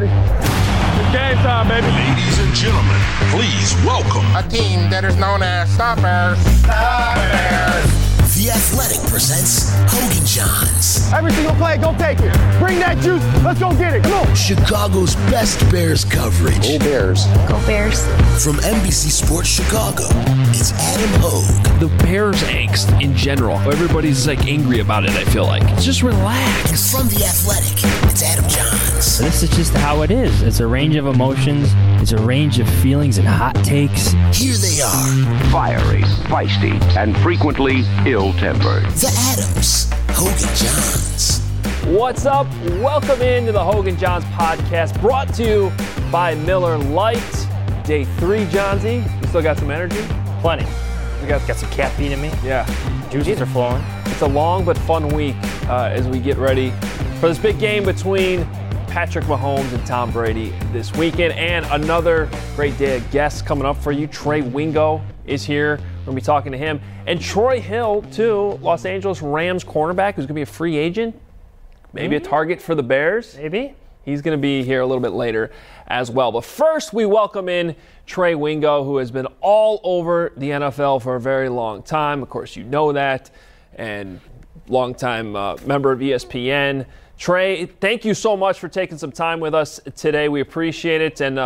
ready. It's game time, baby. Ladies and gentlemen, please welcome a team that is known as Stoppers. Stoppers. The Athletic presents Hogan Johns. Every single play, go take it. Bring that juice. Let's go get it. Come on. Chicago's best Bears coverage. Go Bears. Go Bears. From NBC Sports Chicago, it's Adam Hogue. The Bears angst in general. Everybody's angry about it, I feel like. Just relax. And from The Athletic, it's Adam Johns. This is just how it is. It's a range of emotions. It's a range of feelings and hot takes. Here they are. Fiery, feisty, and frequently ill-tempered. The Adams. Hogan Johns. What's up? Welcome into the Hogan Johns podcast, brought to you by Miller Lite. Day 3, Johnsy. You still got some energy? Plenty. We got some caffeine in me. Yeah. Juices are flowing. It's a long but fun week as we get ready for this big game between Patrick Mahomes and Tom Brady this weekend, and another great day of guests coming up for you. Trey Wingo is here. We're going to be talking to him. And Troy Hill, too, Los Angeles Rams cornerback, who's going to be a free agent. Maybe a target for the Bears. Maybe. He's going to be here a little bit later as well. But first, we welcome in Trey Wingo, who has been all over the NFL for a very long time. Of course, you know that. And longtime member of ESPN. Trey, thank you so much for taking some time with us today. We appreciate it. And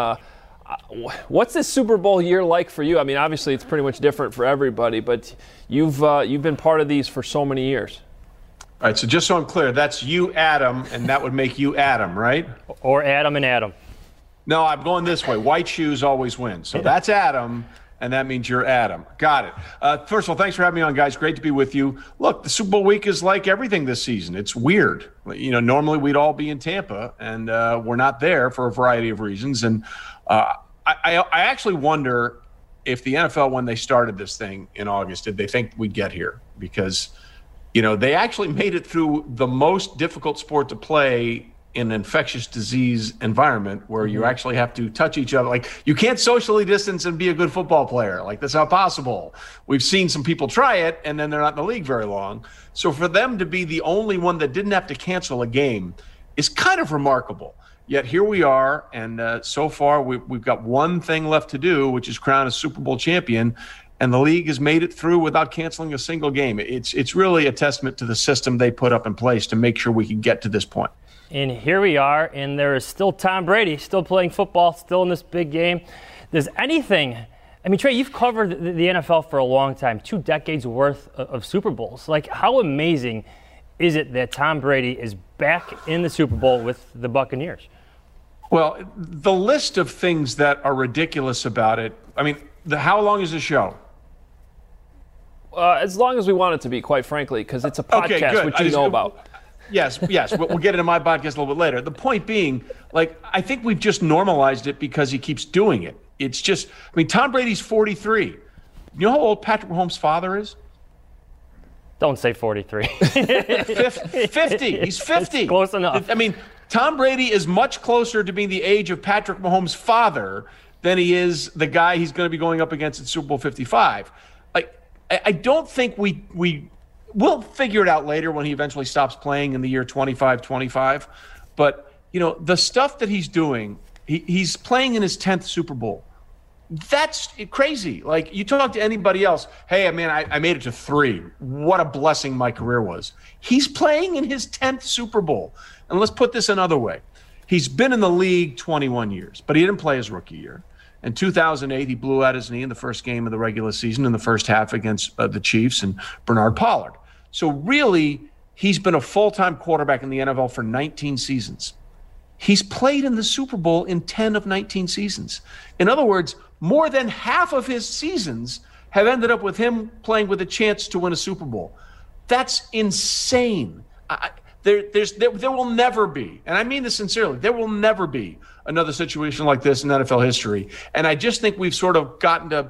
what's this Super Bowl year like for you? I mean, obviously, it's pretty much different for everybody, but you've been part of these for so many years. All right, so just so I'm clear, that's you, Adam, and that would make you Adam, right? Or Adam and Adam. No, I'm going this way. White shoes always win. So that's Adam, and that means you're Adam. Got it. First of all, thanks for having me on, guys. Great to be with you. Look, the Super Bowl week is like everything this season. It's weird. You know, normally we'd all be in Tampa, and we're not there for a variety of reasons. And I actually wonder if the NFL, when they started this thing in August, did they think we'd get here? Because you know, they actually made it through the most difficult sport to play in an infectious disease environment where you actually have to touch each other. Like, you can't socially distance and be a good football player. Like, that's not possible. We've seen some people try it, and then they're not in the league very long. So for them to be the only one that didn't have to cancel a game is kind of remarkable. Yet here we are, and so far we've got one thing left to do, which is crown a Super Bowl champion. And the league has made it through without canceling a single game. It's really a testament to the system they put up in place to make sure we can get to this point. And here we are, and there is still Tom Brady, still playing football, still in this big game. Does anything – I mean, Trey, you've covered the NFL for a long time, 2 decades worth of Super Bowls. Like, how amazing is it that Tom Brady is back in the Super Bowl with the Buccaneers? Well, the list of things that are ridiculous about it, I mean, how long is the show? As long as we want it to be, quite frankly, because it's a podcast, which you know about. Yes. We'll get into my podcast a little bit later. The point being, like, I think we've just normalized it because he keeps doing it. It's just, I mean, Tom Brady's 43. You know how old Patrick Mahomes' father is? Don't say 43. 50. He's 50. It's close enough. I mean, Tom Brady is much closer to being the age of Patrick Mahomes' father than he is the guy he's going to be going up against at Super Bowl 55. I don't think we'll figure it out later when he eventually stops playing in the year 25. But, you know, the stuff that he's doing, he's playing in his 10th Super Bowl. That's crazy. Like, you talk to anybody else, hey, man, I made it to 3. What a blessing my career was. He's playing in his 10th Super Bowl. And let's put this another way. He's been in the league 21 years, but he didn't play his rookie year. In 2008, he blew out his knee in the first game of the regular season in the first half against the Chiefs and Bernard Pollard. So really, he's been a full-time quarterback in the NFL for 19 seasons. He's played in the Super Bowl in 10 of 19 seasons. In other words, more than half of his seasons have ended up with him playing with a chance to win a Super Bowl. That's insane. There will never be, and I mean this sincerely, there will never be another situation like this in NFL history. And I just think we've sort of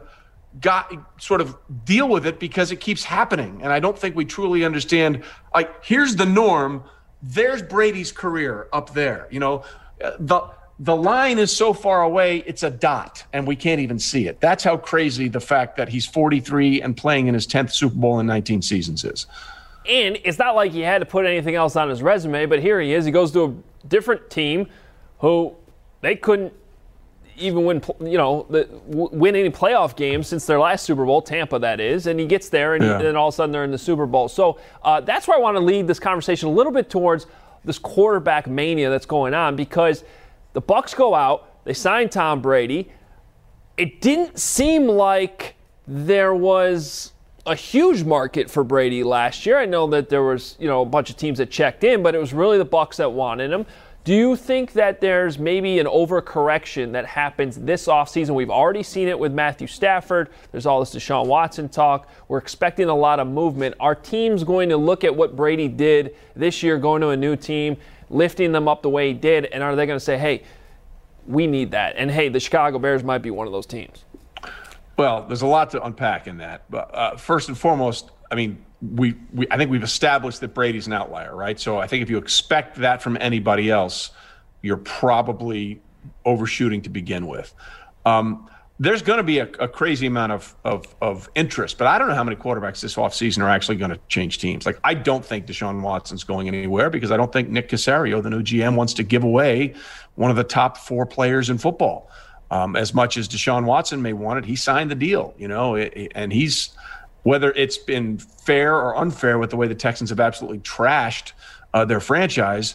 deal with it because it keeps happening. And I don't think we truly understand, like, here's the norm. There's Brady's career up there. You know, the line is so far away, it's a dot, and we can't even see it. That's how crazy the fact that he's 43 and playing in his 10th Super Bowl in 19 seasons is. And it's not like he had to put anything else on his resume, but here he is. He goes to a different team who they couldn't even win any playoff games since their last Super Bowl, Tampa that is, and he gets there and then all of a sudden they're in the Super Bowl. So that's where I want to lead this conversation a little bit towards this quarterback mania that's going on, because the Bucs go out, they sign Tom Brady. It didn't seem like there was a huge market for Brady last year. I know that there was, a bunch of teams that checked in, but it was really the Bucs that wanted him. Do you think that there's maybe an overcorrection that happens this offseason? We've already seen it with Matthew Stafford. There's all this Deshaun Watson talk. We're expecting a lot of movement. Are teams going to look at what Brady did this year, going to a new team, lifting them up the way he did, and are they going to say, hey, we need that? And, hey, the Chicago Bears might be one of those teams. Well, there's a lot to unpack in that. But first and foremost, I mean, I think we've established that Brady's an outlier, right? So I think if you expect that from anybody else, you're probably overshooting to begin with. There's going to be a crazy amount of interest, but I don't know how many quarterbacks this offseason are actually going to change teams. Like, I don't think Deshaun Watson's going anywhere, because I don't think Nick Caserio, the new GM, wants to give away one of the top 4 players in football. As much as Deshaun Watson may want it, he signed the deal, and he's – whether it's been fair or unfair with the way the Texans have absolutely trashed their franchise,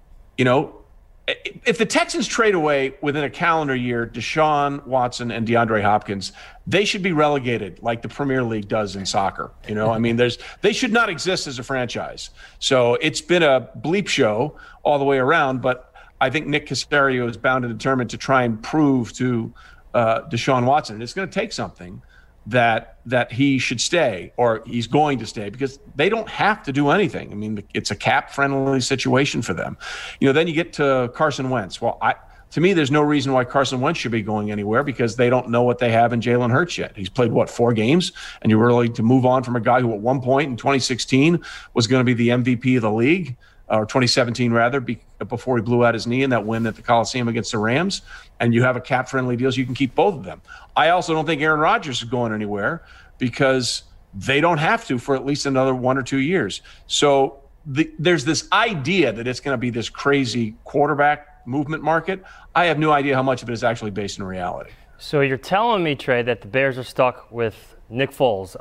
if the Texans trade away within a calendar year Deshaun Watson and DeAndre Hopkins, they should be relegated like the Premier League does in soccer. I mean, they should not exist as a franchise. So it's been a bleep show all the way around, but I think Nick Caserio is bound and determined to try and prove to Deshaun Watson, and it's going to take something, that he should stay, or he's going to stay, because they don't have to do anything. I mean, it's a cap-friendly situation for them. Then you get to Carson Wentz. Well, to me, there's no reason why Carson Wentz should be going anywhere, because they don't know what they have in Jalen Hurts yet. He's played, 4 games? And you're really to move on from a guy who at one point in 2016 was going to be the MVP of the league, or 2017 rather, before he blew out his knee in that win at the Coliseum against the Rams, and you have a cap-friendly deal, so you can keep both of them. I also don't think Aaron Rodgers is going anywhere, because they don't have to for at least another 1 or 2 years. So there's this idea that it's going to be this crazy quarterback movement market. I have no idea how much of it is actually based in reality. So you're telling me, Trey, that the Bears are stuck with Nick Foles.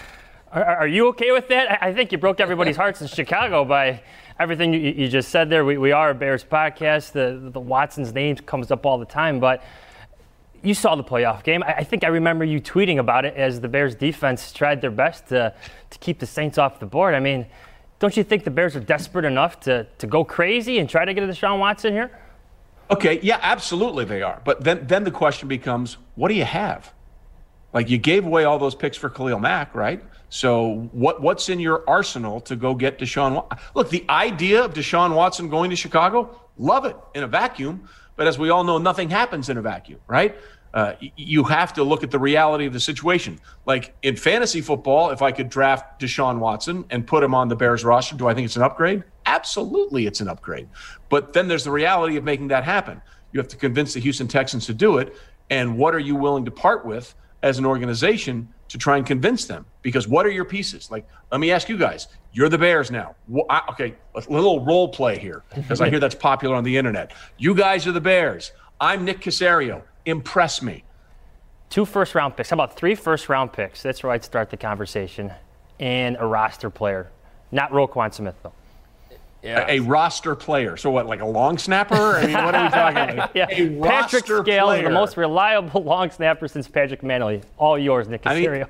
Are you okay with that? I think you broke everybody's hearts in Chicago by everything you just said there. We are a Bears podcast. The Watson's name comes up all the time, but you saw the playoff game. I think I remember you tweeting about it as the Bears defense tried their best to keep the Saints off the board. I mean, don't you think the Bears are desperate enough to go crazy and try to get a Deshaun Watson here? Okay, yeah, absolutely they are. But then the question becomes, what do you have? Like, you gave away all those picks for Khalil Mack, right? So what's in your arsenal to go get Deshaun Watson? Look, the idea of Deshaun Watson going to Chicago, love it in a vacuum. But as we all know, nothing happens in a vacuum, right? You have to look at the reality of the situation. Like, in fantasy football, if I could draft Deshaun Watson and put him on the Bears roster, do I think it's an upgrade? Absolutely, it's an upgrade. But then there's the reality of making that happen. You have to convince the Houston Texans to do it. And what are you willing to part with as an organization to try and convince them? Because what are your pieces? Like, let me ask you guys. You're the Bears now. Okay, a little role play here, because I hear that's popular on the internet. You guys are the Bears. I'm Nick Caserio. Impress me. 2 first-round picks. How about 3 first-round picks? That's where I'd start the conversation. And a roster player. Not Roquan Smith, though. Yeah. A roster player. So what, like a long snapper? I mean, what are we talking about? Yeah. A Patrick roster Scales, player. the most reliable long snapper since Patrick Manley. All yours, Nick Caserio.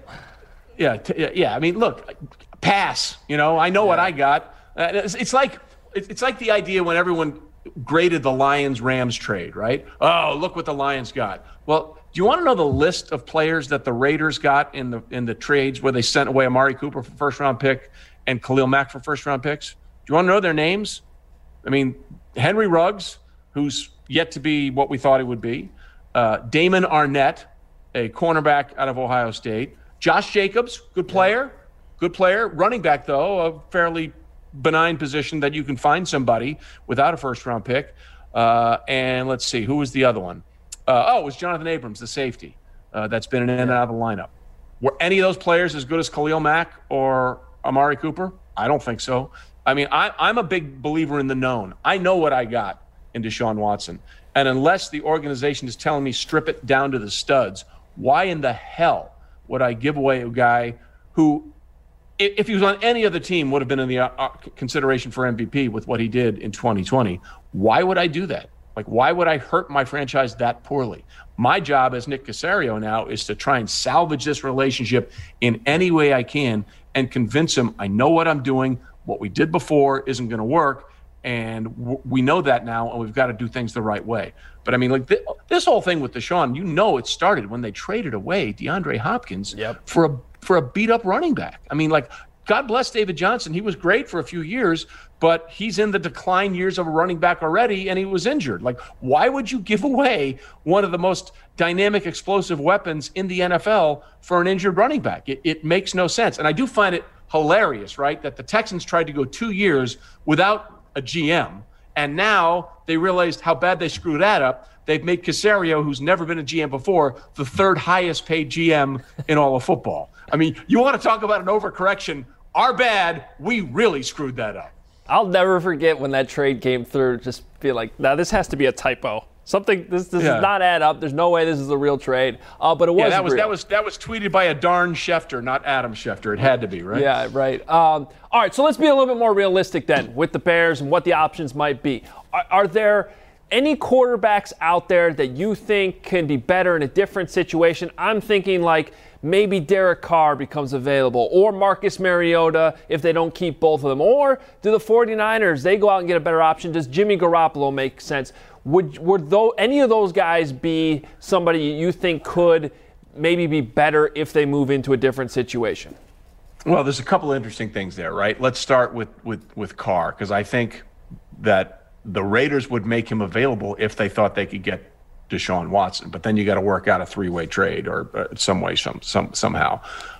Yeah. I mean, look, pass. I know what I got. It's like the idea when everyone graded the Lions-Rams trade, right? Oh, look what the Lions got. Well, do you want to know the list of players that the Raiders got in the trades where they sent away Amari Cooper for first-round pick and Khalil Mack for first-round picks? Do you want to know their names? I mean, Henry Ruggs, who's yet to be what we thought he would be. Damon Arnett, a cornerback out of Ohio State. Josh Jacobs, good player. Good player. Running back, though, a fairly benign position that you can find somebody without a first-round pick. And let's see, who was the other one? It was Jonathan Abrams, the safety, that's been in and out of the lineup. Were any of those players as good as Khalil Mack or Amari Cooper? I don't think so. I mean, I'm a big believer in the known. I know what I got in Deshaun Watson. And unless the organization is telling me strip it down to the studs, why in the hell would I give away a guy who, if he was on any other team, would have been in the consideration for MVP with what he did in 2020? Why would I do that? Like, why would I hurt my franchise that poorly? My job as Nick Caserio now is to try and salvage this relationship in any way I can and convince him I know what I'm doing, what we did before isn't going to work, and we know that now, and we've got to do things the right way. But, I mean, like, this whole thing with Deshaun, it started when they traded away DeAndre Hopkins for a beat-up running back. I mean, like, God bless David Johnson. He was great for a few years, but he's in the decline years of a running back already, and he was injured. Like, why would you give away one of the most dynamic, explosive weapons in the NFL for an injured running back? It makes no sense. And I do find it hilarious, right, that the Texans tried to go 2 years without a GM, and now they realized how bad they screwed that up. They've made Caserio, who's never been a GM before, the third highest paid GM in all of football. I mean, you want to talk about an overcorrection? Our bad, we really screwed that up. I'll never forget when that trade came through, just feel like, now this has to be a typo. Something, this does not add up. There's no way this is a real trade. But it was real. That was tweeted by a darn Schefter, not Adam Schefter. It had to be, right? Yeah, right. All right, so let's be a little bit more realistic then with the Bears and what the options might be. Are there any quarterbacks out there that you think can be better in a different situation? I'm thinking like maybe Derek Carr becomes available, or Marcus Mariota if they don't keep both of them. Or do the 49ers, they go out and get a better option? Does Jimmy Garoppolo make sense? Would any of those guys be somebody you think could maybe be better if they move into a different situation? Well, there's a couple of interesting things there, right? Let's start with Carr, because I think that the Raiders would make him available if they thought they could get Deshaun Watson. But then you got to work out a three-way trade or some way, somehow.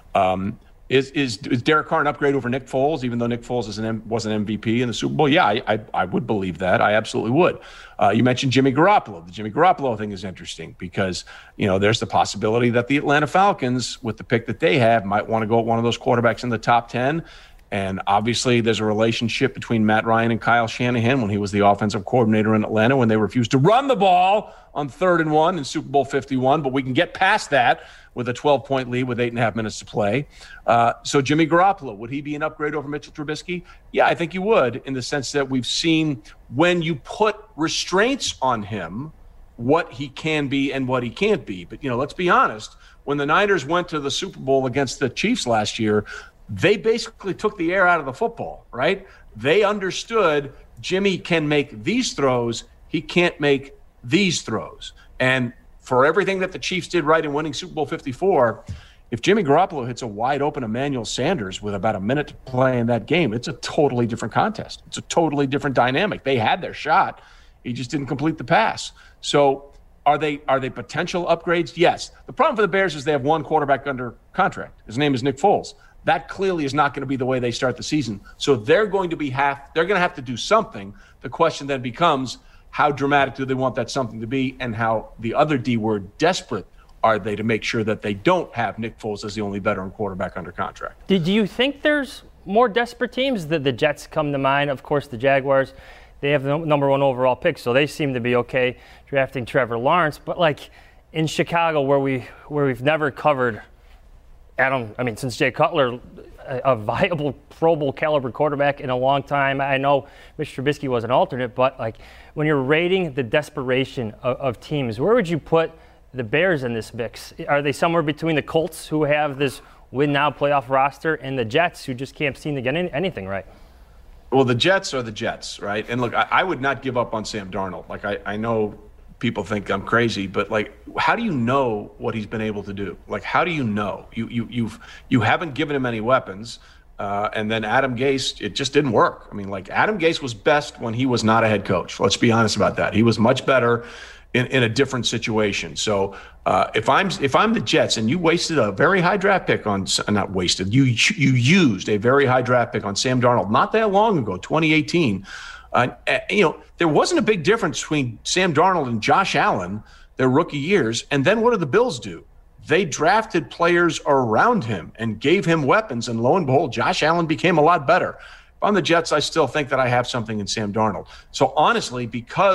Is Derek Carr an upgrade over Nick Foles, even though Nick Foles was an MVP in the Super Bowl? Yeah, I would believe that. I absolutely would. You mentioned Jimmy Garoppolo. The Jimmy Garoppolo thing is interesting because, there's the possibility that the Atlanta Falcons, with the pick that they have, might want to go at one of those quarterbacks in the top 10. And obviously there's a relationship between Matt Ryan and Kyle Shanahan when he was the offensive coordinator in Atlanta when they refused to run the ball on 3rd and 1 in Super Bowl 51. But we can get past that with a 12-point lead with 8.5 minutes to play. So Jimmy Garoppolo, would he be an upgrade over Mitchell Trubisky? Yeah, I think he would, in the sense that we've seen when you put restraints on him, what he can be and what he can't be. But, let's be honest. When the Niners went to the Super Bowl against the Chiefs last year, they basically took the air out of the football, right? They understood Jimmy can make these throws. He can't make these throws. And for everything that the Chiefs did right in winning Super Bowl 54, if Jimmy Garoppolo hits a wide open Emmanuel Sanders with about a minute to play in that game, it's a totally different contest. It's a totally different dynamic. They had their shot. He just didn't complete the pass. So are they potential upgrades? Yes. The problem for the Bears is they have one quarterback under contract. His name is Nick Foles. That clearly is not going to be the way they start the season. So they're going to have to do something. The question then becomes, how dramatic do they want that something to be, and how, the other D word, desperate are they to make sure that they don't have Nick Foles as the only veteran quarterback under contract? Do you think there's more desperate teams? The Jets come to mind. Of course, the Jaguars, they have the number 1 overall pick, so they seem to be okay drafting Trevor Lawrence. But like in Chicago, where we've never covered since Jay Cutler, a viable Pro Bowl caliber quarterback in a long time. I know Mitch Trubisky was an alternate, but like when you're rating the desperation of teams, where would you put the Bears in this mix? Are they somewhere between the Colts, who have this win now playoff roster, and the Jets, who just can't seem to get anything right? Well, the Jets are the Jets, right? And look, I would not give up on Sam Darnold. Like, I know people think I'm crazy, but like, how do you know what he's been able to do? Like, how do you know? You haven't given him any weapons, and then Adam Gase, it just didn't work. I mean, like, Adam Gase was best when he was not a head coach. Let's be honest about that. He was much better in a different situation. So if I'm the Jets and you wasted a very high draft pick on, not wasted, you used a very high draft pick on Sam Darnold not that long ago, 2018. There wasn't a big difference between Sam Darnold and Josh Allen their rookie years. And then what did the Bills do? They drafted players around him and gave him weapons. And lo and behold, Josh Allen became a lot better. If I'm the Jets, I still think that I have something in Sam Darnold. So honestly, because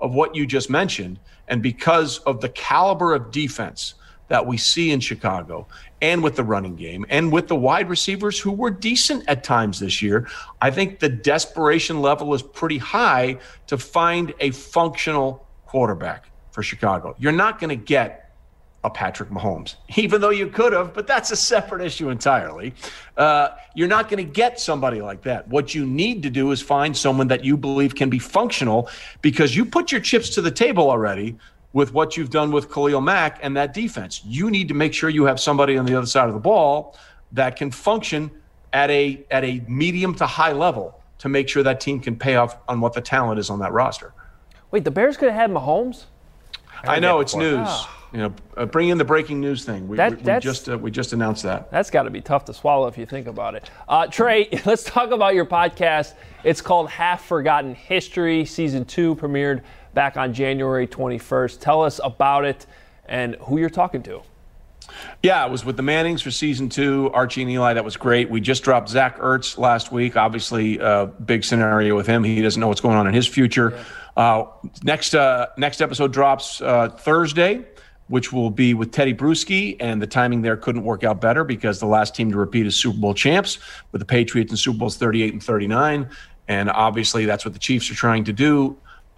of what you just mentioned, and because of the caliber of defense that we see in Chicago, and with the running game, and with the wide receivers who were decent at times this year, I think the desperation level is pretty high to find a functional quarterback for Chicago. You're not going to get a Patrick Mahomes, even though you could have, but that's a separate issue entirely. You're not going to get somebody like that. What you need to do is find someone that you believe can be functional, because you put your chips to the table already with what you've done with Khalil Mack and that defense. You need to make sure you have somebody on the other side of the ball that can function at a medium to high level to make sure that team can pay off on what the talent is on that roster. Wait, the Bears could have had Mahomes? I know, it's news. Bring in the breaking news thing. We just announced that. That's got to be tough to swallow if you think about it. Trey, let's talk about your podcast. It's called Half Forgotten History. Season 2 premiered back on January 21st. Tell us about it and who you're talking to. Yeah, it was with the Mannings for season 2, Archie and Eli. That was great. We just dropped Zach Ertz last week. Obviously, big scenario with him. He doesn't know what's going on in his future. Next episode drops Thursday, which will be with Teddy Bruschi, and the timing there couldn't work out better because the last team to repeat is Super Bowl champs, with the Patriots in Super Bowls 38 and 39, and obviously that's what the Chiefs are trying to do.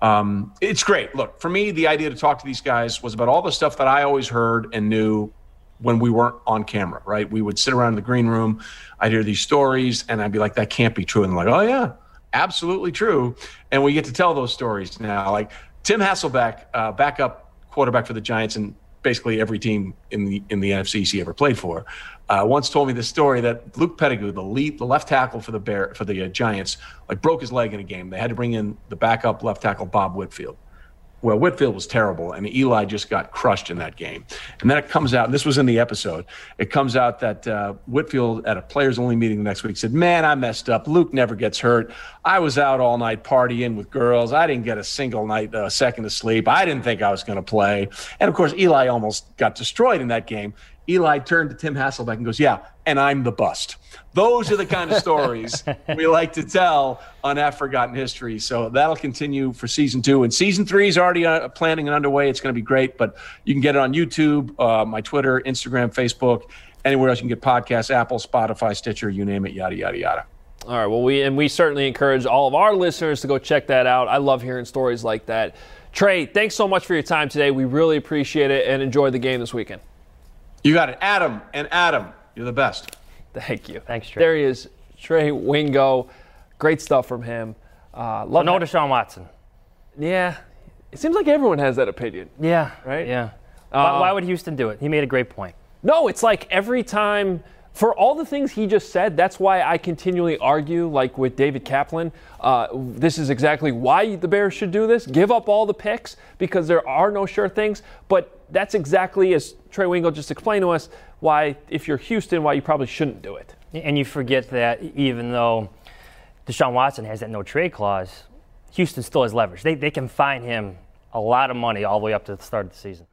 It's great. Look, for me, the idea to talk to these guys was about all the stuff that I always heard and knew when we weren't on camera, right? We would sit around in the green room, I'd hear these stories, and I'd be like, that can't be true. And I'm like, oh, yeah, absolutely true. And we get to tell those stories now. Like Tim Hasselbeck, backup quarterback for the Giants and basically every team in the NFC East he ever played for, once told me this story that Luke Pettigrew, the left tackle for the Giants, like broke his leg in a game. They had to bring in the backup left tackle, Bob Whitfield. Well, Whitfield was terrible, and Eli just got crushed in that game. And then it comes out, and this was in the episode, it comes out that Whitfield at a players-only meeting the next week said, man, I messed up. Luke never gets hurt. I was out all night partying with girls. I didn't get a single second of sleep. I didn't think I was going to play. And, of course, Eli almost got destroyed in that game. Eli turned to Tim Hasselbeck and goes, yeah, and I'm the bust. Those are the kind of stories we like to tell on Half Forgotten History. So that'll continue for season 2. And season 3 is already planning and underway. It's going to be great. But you can get it on YouTube, my Twitter, Instagram, Facebook, anywhere else you can get podcasts, Apple, Spotify, Stitcher, you name it, yada, yada, yada. All right. Well, we certainly encourage all of our listeners to go check that out. I love hearing stories like that. Trey, thanks so much for your time today. We really appreciate it and enjoy the game this weekend. You got it. Adam, you're the best. Thank you. Thanks, Trey. There he is, Trey Wingo. Great stuff from him. No Deshaun Watson. Yeah. It seems like everyone has that opinion. Yeah. Right? Yeah. Why would Houston do it? He made a great point. No, it's like every time, for all the things he just said, that's why I continually argue, like with David Kaplan, this is exactly why the Bears should do this. Give up all the picks because there are no sure things. But that's exactly, as Trey Wingo just explained to us, why, if you're Houston, why you probably shouldn't do it. And you forget that even though Deshaun Watson has that no trade clause, Houston still has leverage. They can fine him a lot of money all the way up to the start of the season.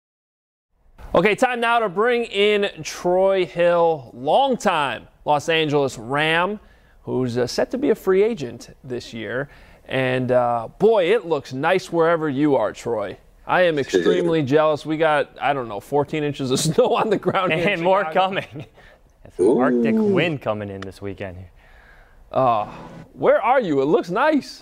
Okay, time now to bring in Troy Hill, longtime Los Angeles Ram, who's set to be a free agent this year. And, boy, it looks nice wherever you are, Troy. I am extremely jealous. We got, 14 inches of snow on the ground here and more coming. It's an Arctic wind coming in this weekend. Where are you? It looks nice.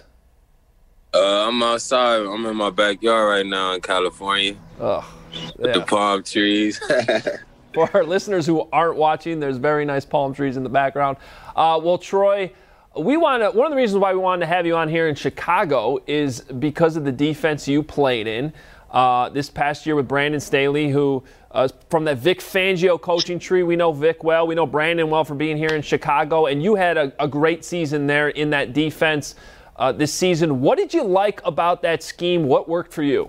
I'm outside. I'm in my backyard right now in California. With the palm trees. For our listeners who aren't watching, there's very nice palm trees in the background. Well, Troy, one of the reasons why we wanted to have you on here in Chicago is because of the defense you played in this past year with Brandon Staley, who from that Vic Fangio coaching tree. We know Vic well. We know Brandon well from being here in Chicago. And you had a great season there in that defense this season. What did you like about that scheme? What worked for you?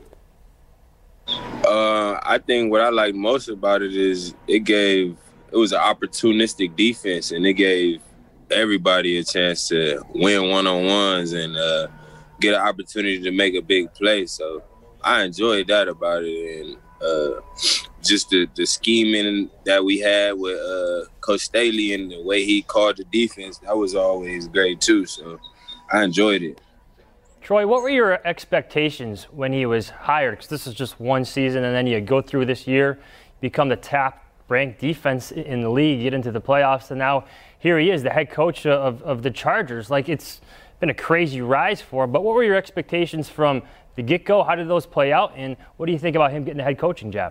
I think what I like most about it is it was an opportunistic defense, and it gave everybody a chance to win one-on-ones and get an opportunity to make a big play. So I enjoyed that about it. And just the scheming that we had with Coach Staley and the way he called the defense, that was always great too. So I enjoyed it. Troy, what were your expectations when he was hired? Because this is just one season, and then you go through this year, become the top-ranked defense in the league, get into the playoffs, and now here he is, the head coach of the Chargers. Like, it's been a crazy rise for him. But what were your expectations from the get-go? How did those play out? And what do you think about him getting the head coaching job?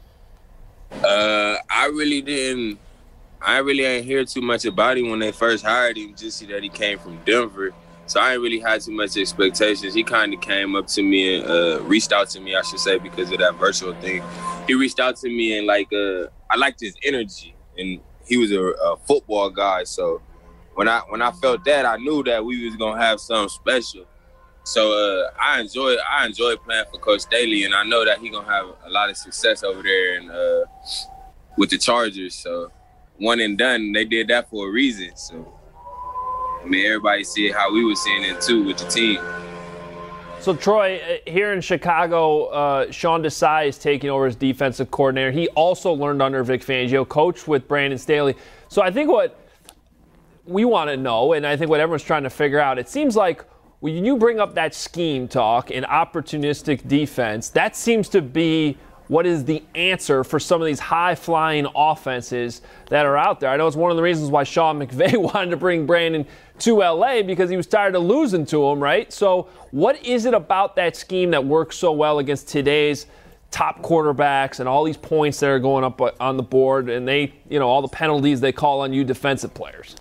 I really didn't hear too much about him when they first hired him, just see that he came from Denver. So I ain't really had too much expectations. He kind of came up to me and reached out to me, I should say, because of that virtual thing. He reached out to me and I liked his energy, and he was a football guy. So when I felt that, I knew that we was gonna have something special. So I enjoy playing for Coach Staley, and I know that he gonna have a lot of success over there and with the Chargers. So one and done, they did that for a reason. So I mean, everybody see how we was seeing it too with the team. So Troy, here in Chicago, Sean Desai is taking over as defensive coordinator. He also learned under Vic Fangio, coached with Brandon Staley. So I think what we want to know, and I think what everyone's trying to figure out, it seems like when you bring up that scheme talk and opportunistic defense, that seems to be what is the answer for some of these high-flying offenses that are out there. I know it's one of the reasons why Sean McVay wanted to bring Brandon to L.A. because he was tired of losing to him, right? So what is it about that scheme that works so well against today's top quarterbacks and all these points that are going up on the board and they, all the penalties they call on you defensive players?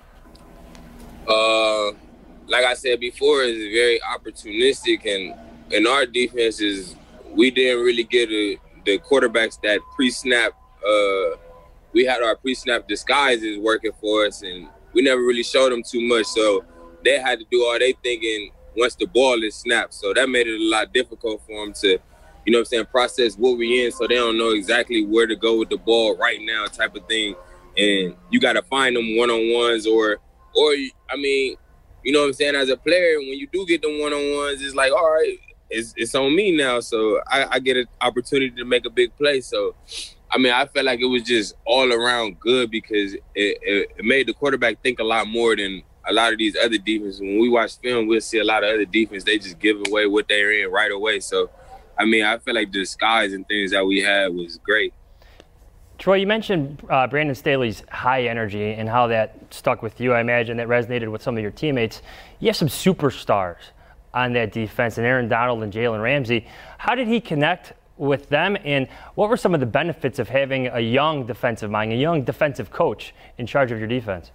Like I said before, it's very opportunistic, and our defense we didn't really get the quarterbacks that pre-snap. We had our pre-snap disguises working for us, and we never really showed them too much. So they had to do all they thinking once the ball is snapped. So that made it a lot difficult for them to, process what we in. So they don't know exactly where to go with the ball right now, type of thing. And you got to find them one-on-ones, or I mean, you know what I'm saying? As a player, when you do get them one-on-ones, it's like, all right, it's on me now. So I get an opportunity to make a big play. So, I mean, I felt like it was just all around good because it made the quarterback think a lot more than a lot of these other defenses. When we watch film, we'll see a lot of other defense. They just give away what they're in right away. So, I mean, I feel like the disguise and things that we had was great. Troy, you mentioned Brandon Staley's high energy and how that stuck with you. I imagine that resonated with some of your teammates. You have some superstars on that defense, and Aaron Donald and Jalen Ramsey. How did he connect with them, and what were some of the benefits of having a young defensive mind, a young defensive coach in charge of your defense?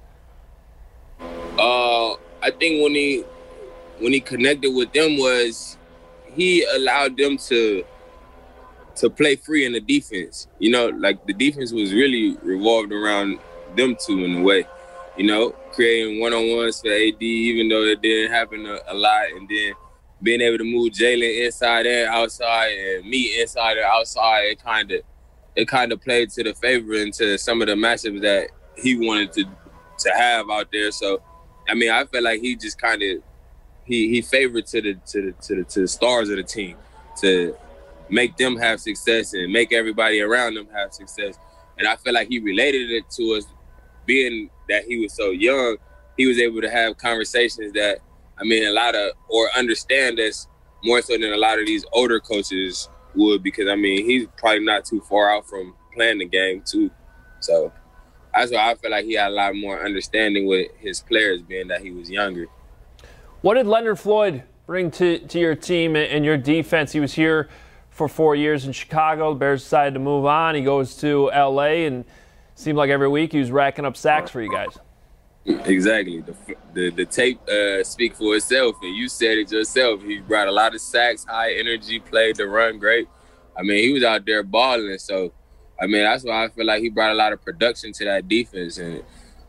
I think when he connected with them was he allowed them to play free in the defense. Like the defense was really revolved around them two in a way, creating one-on-ones for AD, even though it didn't happen a lot, and then being able to move Jalen inside and outside and me inside or outside, it kind of played to the favor into some of the matchups that he wanted to have out there. So, I mean, I felt like he just kind of he favored to the stars of the team to make them have success and make everybody around them have success. And I feel like he related it to us, being that he was so young. He was able to have conversations that, understand us more so than a lot of these older coaches would, because, he's probably not too far out from playing the game too. So that's why I feel like he had a lot more understanding with his players, being that he was younger. What did Leonard Floyd bring to your team and your defense? He was here for 4 years in Chicago. The Bears decided to move on. He goes to L.A. and seemed like every week he was racking up sacks for you guys. Exactly. The tape speak for itself, and you said it yourself. He brought a lot of sacks, high energy, played the run great. He was out there balling. So, that's why I feel like he brought a lot of production to that defense. And,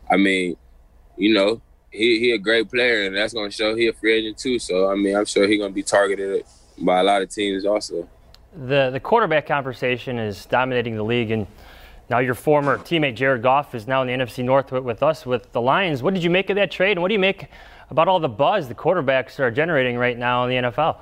he a great player, and that's going to show he a free agent too. So, I'm sure he's going to be targeted by a lot of teams also. The quarterback conversation is dominating the league, and now your former teammate Jared Goff is now in the NFC North with us, with the Lions. What did you make of that trade, and what do you make about all the buzz the quarterbacks are generating right now in the NFL?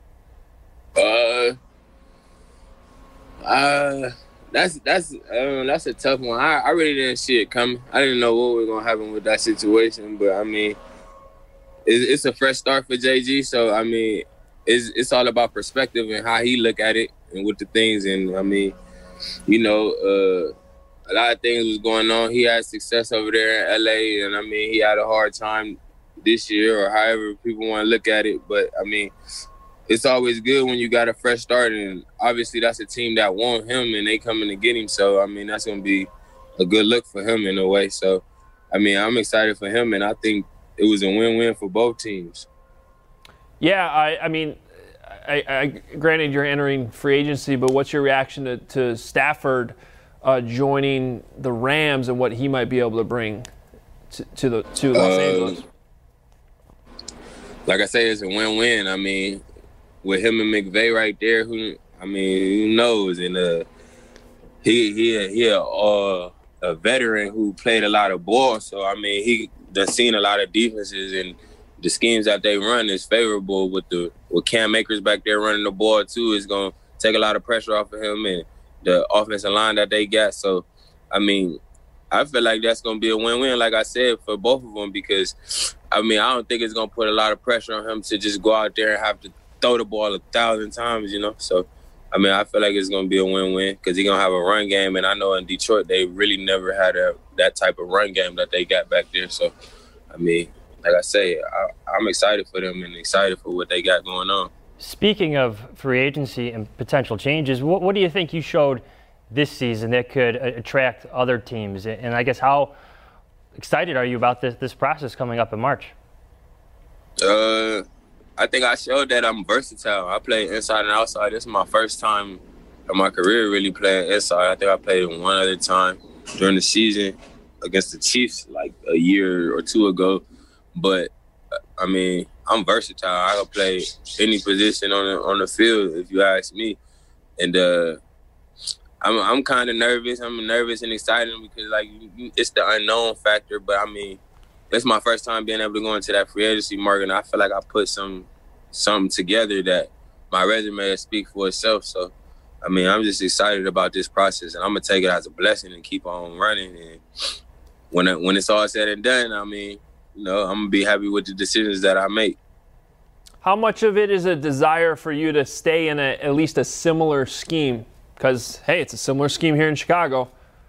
That's a tough one. I really didn't see it coming. I didn't know what was gonna happen with that situation, but it's a fresh start for JG. So, I mean, it's all about perspective and how he look at it and with the things. And, I mean, you know, a lot of things was going on. He had success over there in LA, and, I mean, he had a hard time this year or however people want to look at it. But, I mean, it's always good when you got a fresh start, and obviously that's a team that want him and they coming to get him. So, I mean, that's going to be a good look for him in a way. So, I mean, I'm excited for him, and I think it was a win-win for both teams. Yeah, I mean, granted you're entering free agency, but what's your reaction to Stafford joining the Rams and what he might be able to bring to Los Angeles? Like I say, it's a win-win. I mean, with him and McVay right there, who knows? And he a veteran who played a lot of ball. So, I mean, he done seen a lot of defenses, and the schemes that they run is favorable with Cam Akers back there running the ball too. Is going to take a lot of pressure off of him and the offensive line that they got. So, I mean, I feel like that's going to be a win-win, like I said, for both of them because, I mean, I don't think it's going to put a lot of pressure on him to just go out there and have to throw the ball 1,000 times, you know. So, I mean, I feel like it's going to be a win-win because he's going to have a run game. And I know in Detroit they really never had that type of run game that they got back there. So, I mean, like I say, I'm excited for them and excited for what they got going on. Speaking of free agency and potential changes, what do you think you showed this season that could attract other teams? And I guess how excited are you about this process coming up in March? I think I showed that I'm versatile. I play inside and outside. This is my first time in my career really playing inside. I think I played one other time during the season against the Chiefs like a year or two ago. But, I mean, I'm versatile. I can play any position on the field, if you ask me. And I'm kind of nervous. I'm nervous and excited because, like, it's the unknown factor. But, I mean, it's my first time being able to go into that free agency market, and I feel like I put something together that my resume speaks for itself. So, I mean, I'm just excited about this process, and I'm going to take it as a blessing and keep on running. And when it's all said and done, I mean, you know, I'm going to be happy with the decisions that I make. How much of it is a desire for you to stay in at least a similar scheme? Because, hey, it's a similar scheme here in Chicago.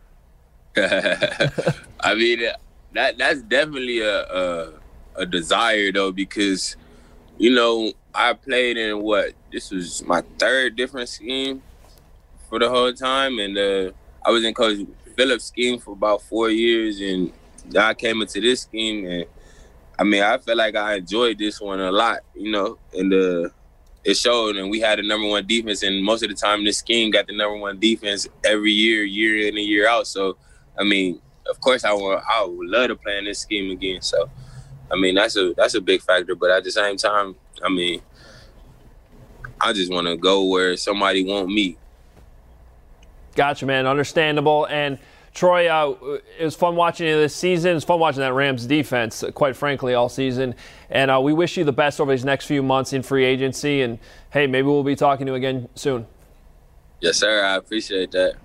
I mean, that's definitely a desire, though, because, you know, I played in this was my third different scheme for the whole time. And I was in Coach Phillips' scheme for about 4 years, and I came into this scheme, and I mean, I feel like I enjoyed this one a lot, you know, and it showed. And we had the number one defense, and most of the time this scheme got the number one defense every year in and year out. So, I mean, of course I would love to play in this scheme again. So, I mean, that's a big factor. But at the same time, I mean, I just want to go where somebody want me. Gotcha, man. Understandable. And Troy, it was fun watching you this season. It was fun watching that Rams defense, quite frankly, all season. And we wish you the best over these next few months in free agency. And, hey, maybe we'll be talking to you again soon. Yes, sir. I appreciate that.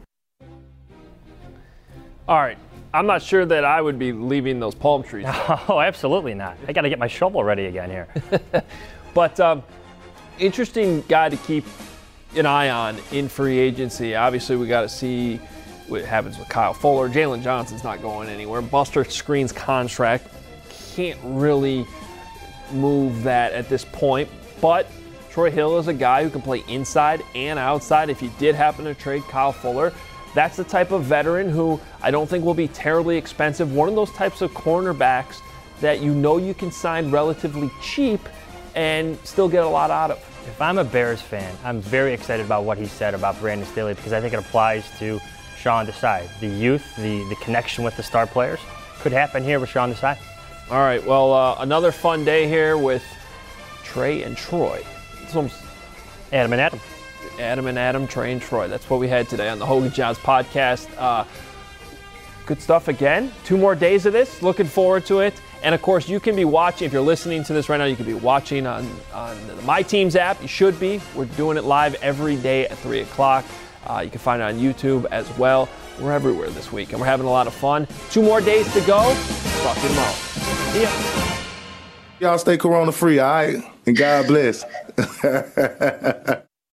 All right. I'm not sure that I would be leaving those palm trees. Oh, absolutely not. I got to get my shovel ready again here. But interesting guy to keep an eye on in free agency. Obviously, we got to see what happens with Kyle Fuller. Jalen Johnson's not going anywhere. Buster Skrine's contract can't really move that at this point. But Troy Hill is a guy who can play inside and outside. If you did happen to trade Kyle Fuller, that's the type of veteran who I don't think will be terribly expensive. One of those types of cornerbacks that you know you can sign relatively cheap and still get a lot out of. If I'm a Bears fan, I'm very excited about what he said about Brandon Staley because I think it applies to Sean Desai. The youth, the connection with the star players could happen here with Sean Desai. All right, well, another fun day here with Trey and Troy. It's almost Adam and Adam. Adam and Adam, Trey and Troy. That's what we had today on the Hogan Johns podcast. Good stuff again. 2 more days of this. Looking forward to it. And, of course, you can be watching. If you're listening to this right now, you can be watching on the My Teams app. You should be. We're doing it live every day at 3 o'clock. You can find it on YouTube as well. We're everywhere this week, and we're having a lot of fun. 2 more days to go. Talk to you tomorrow. See ya. Y'all stay corona free, all right? And God bless.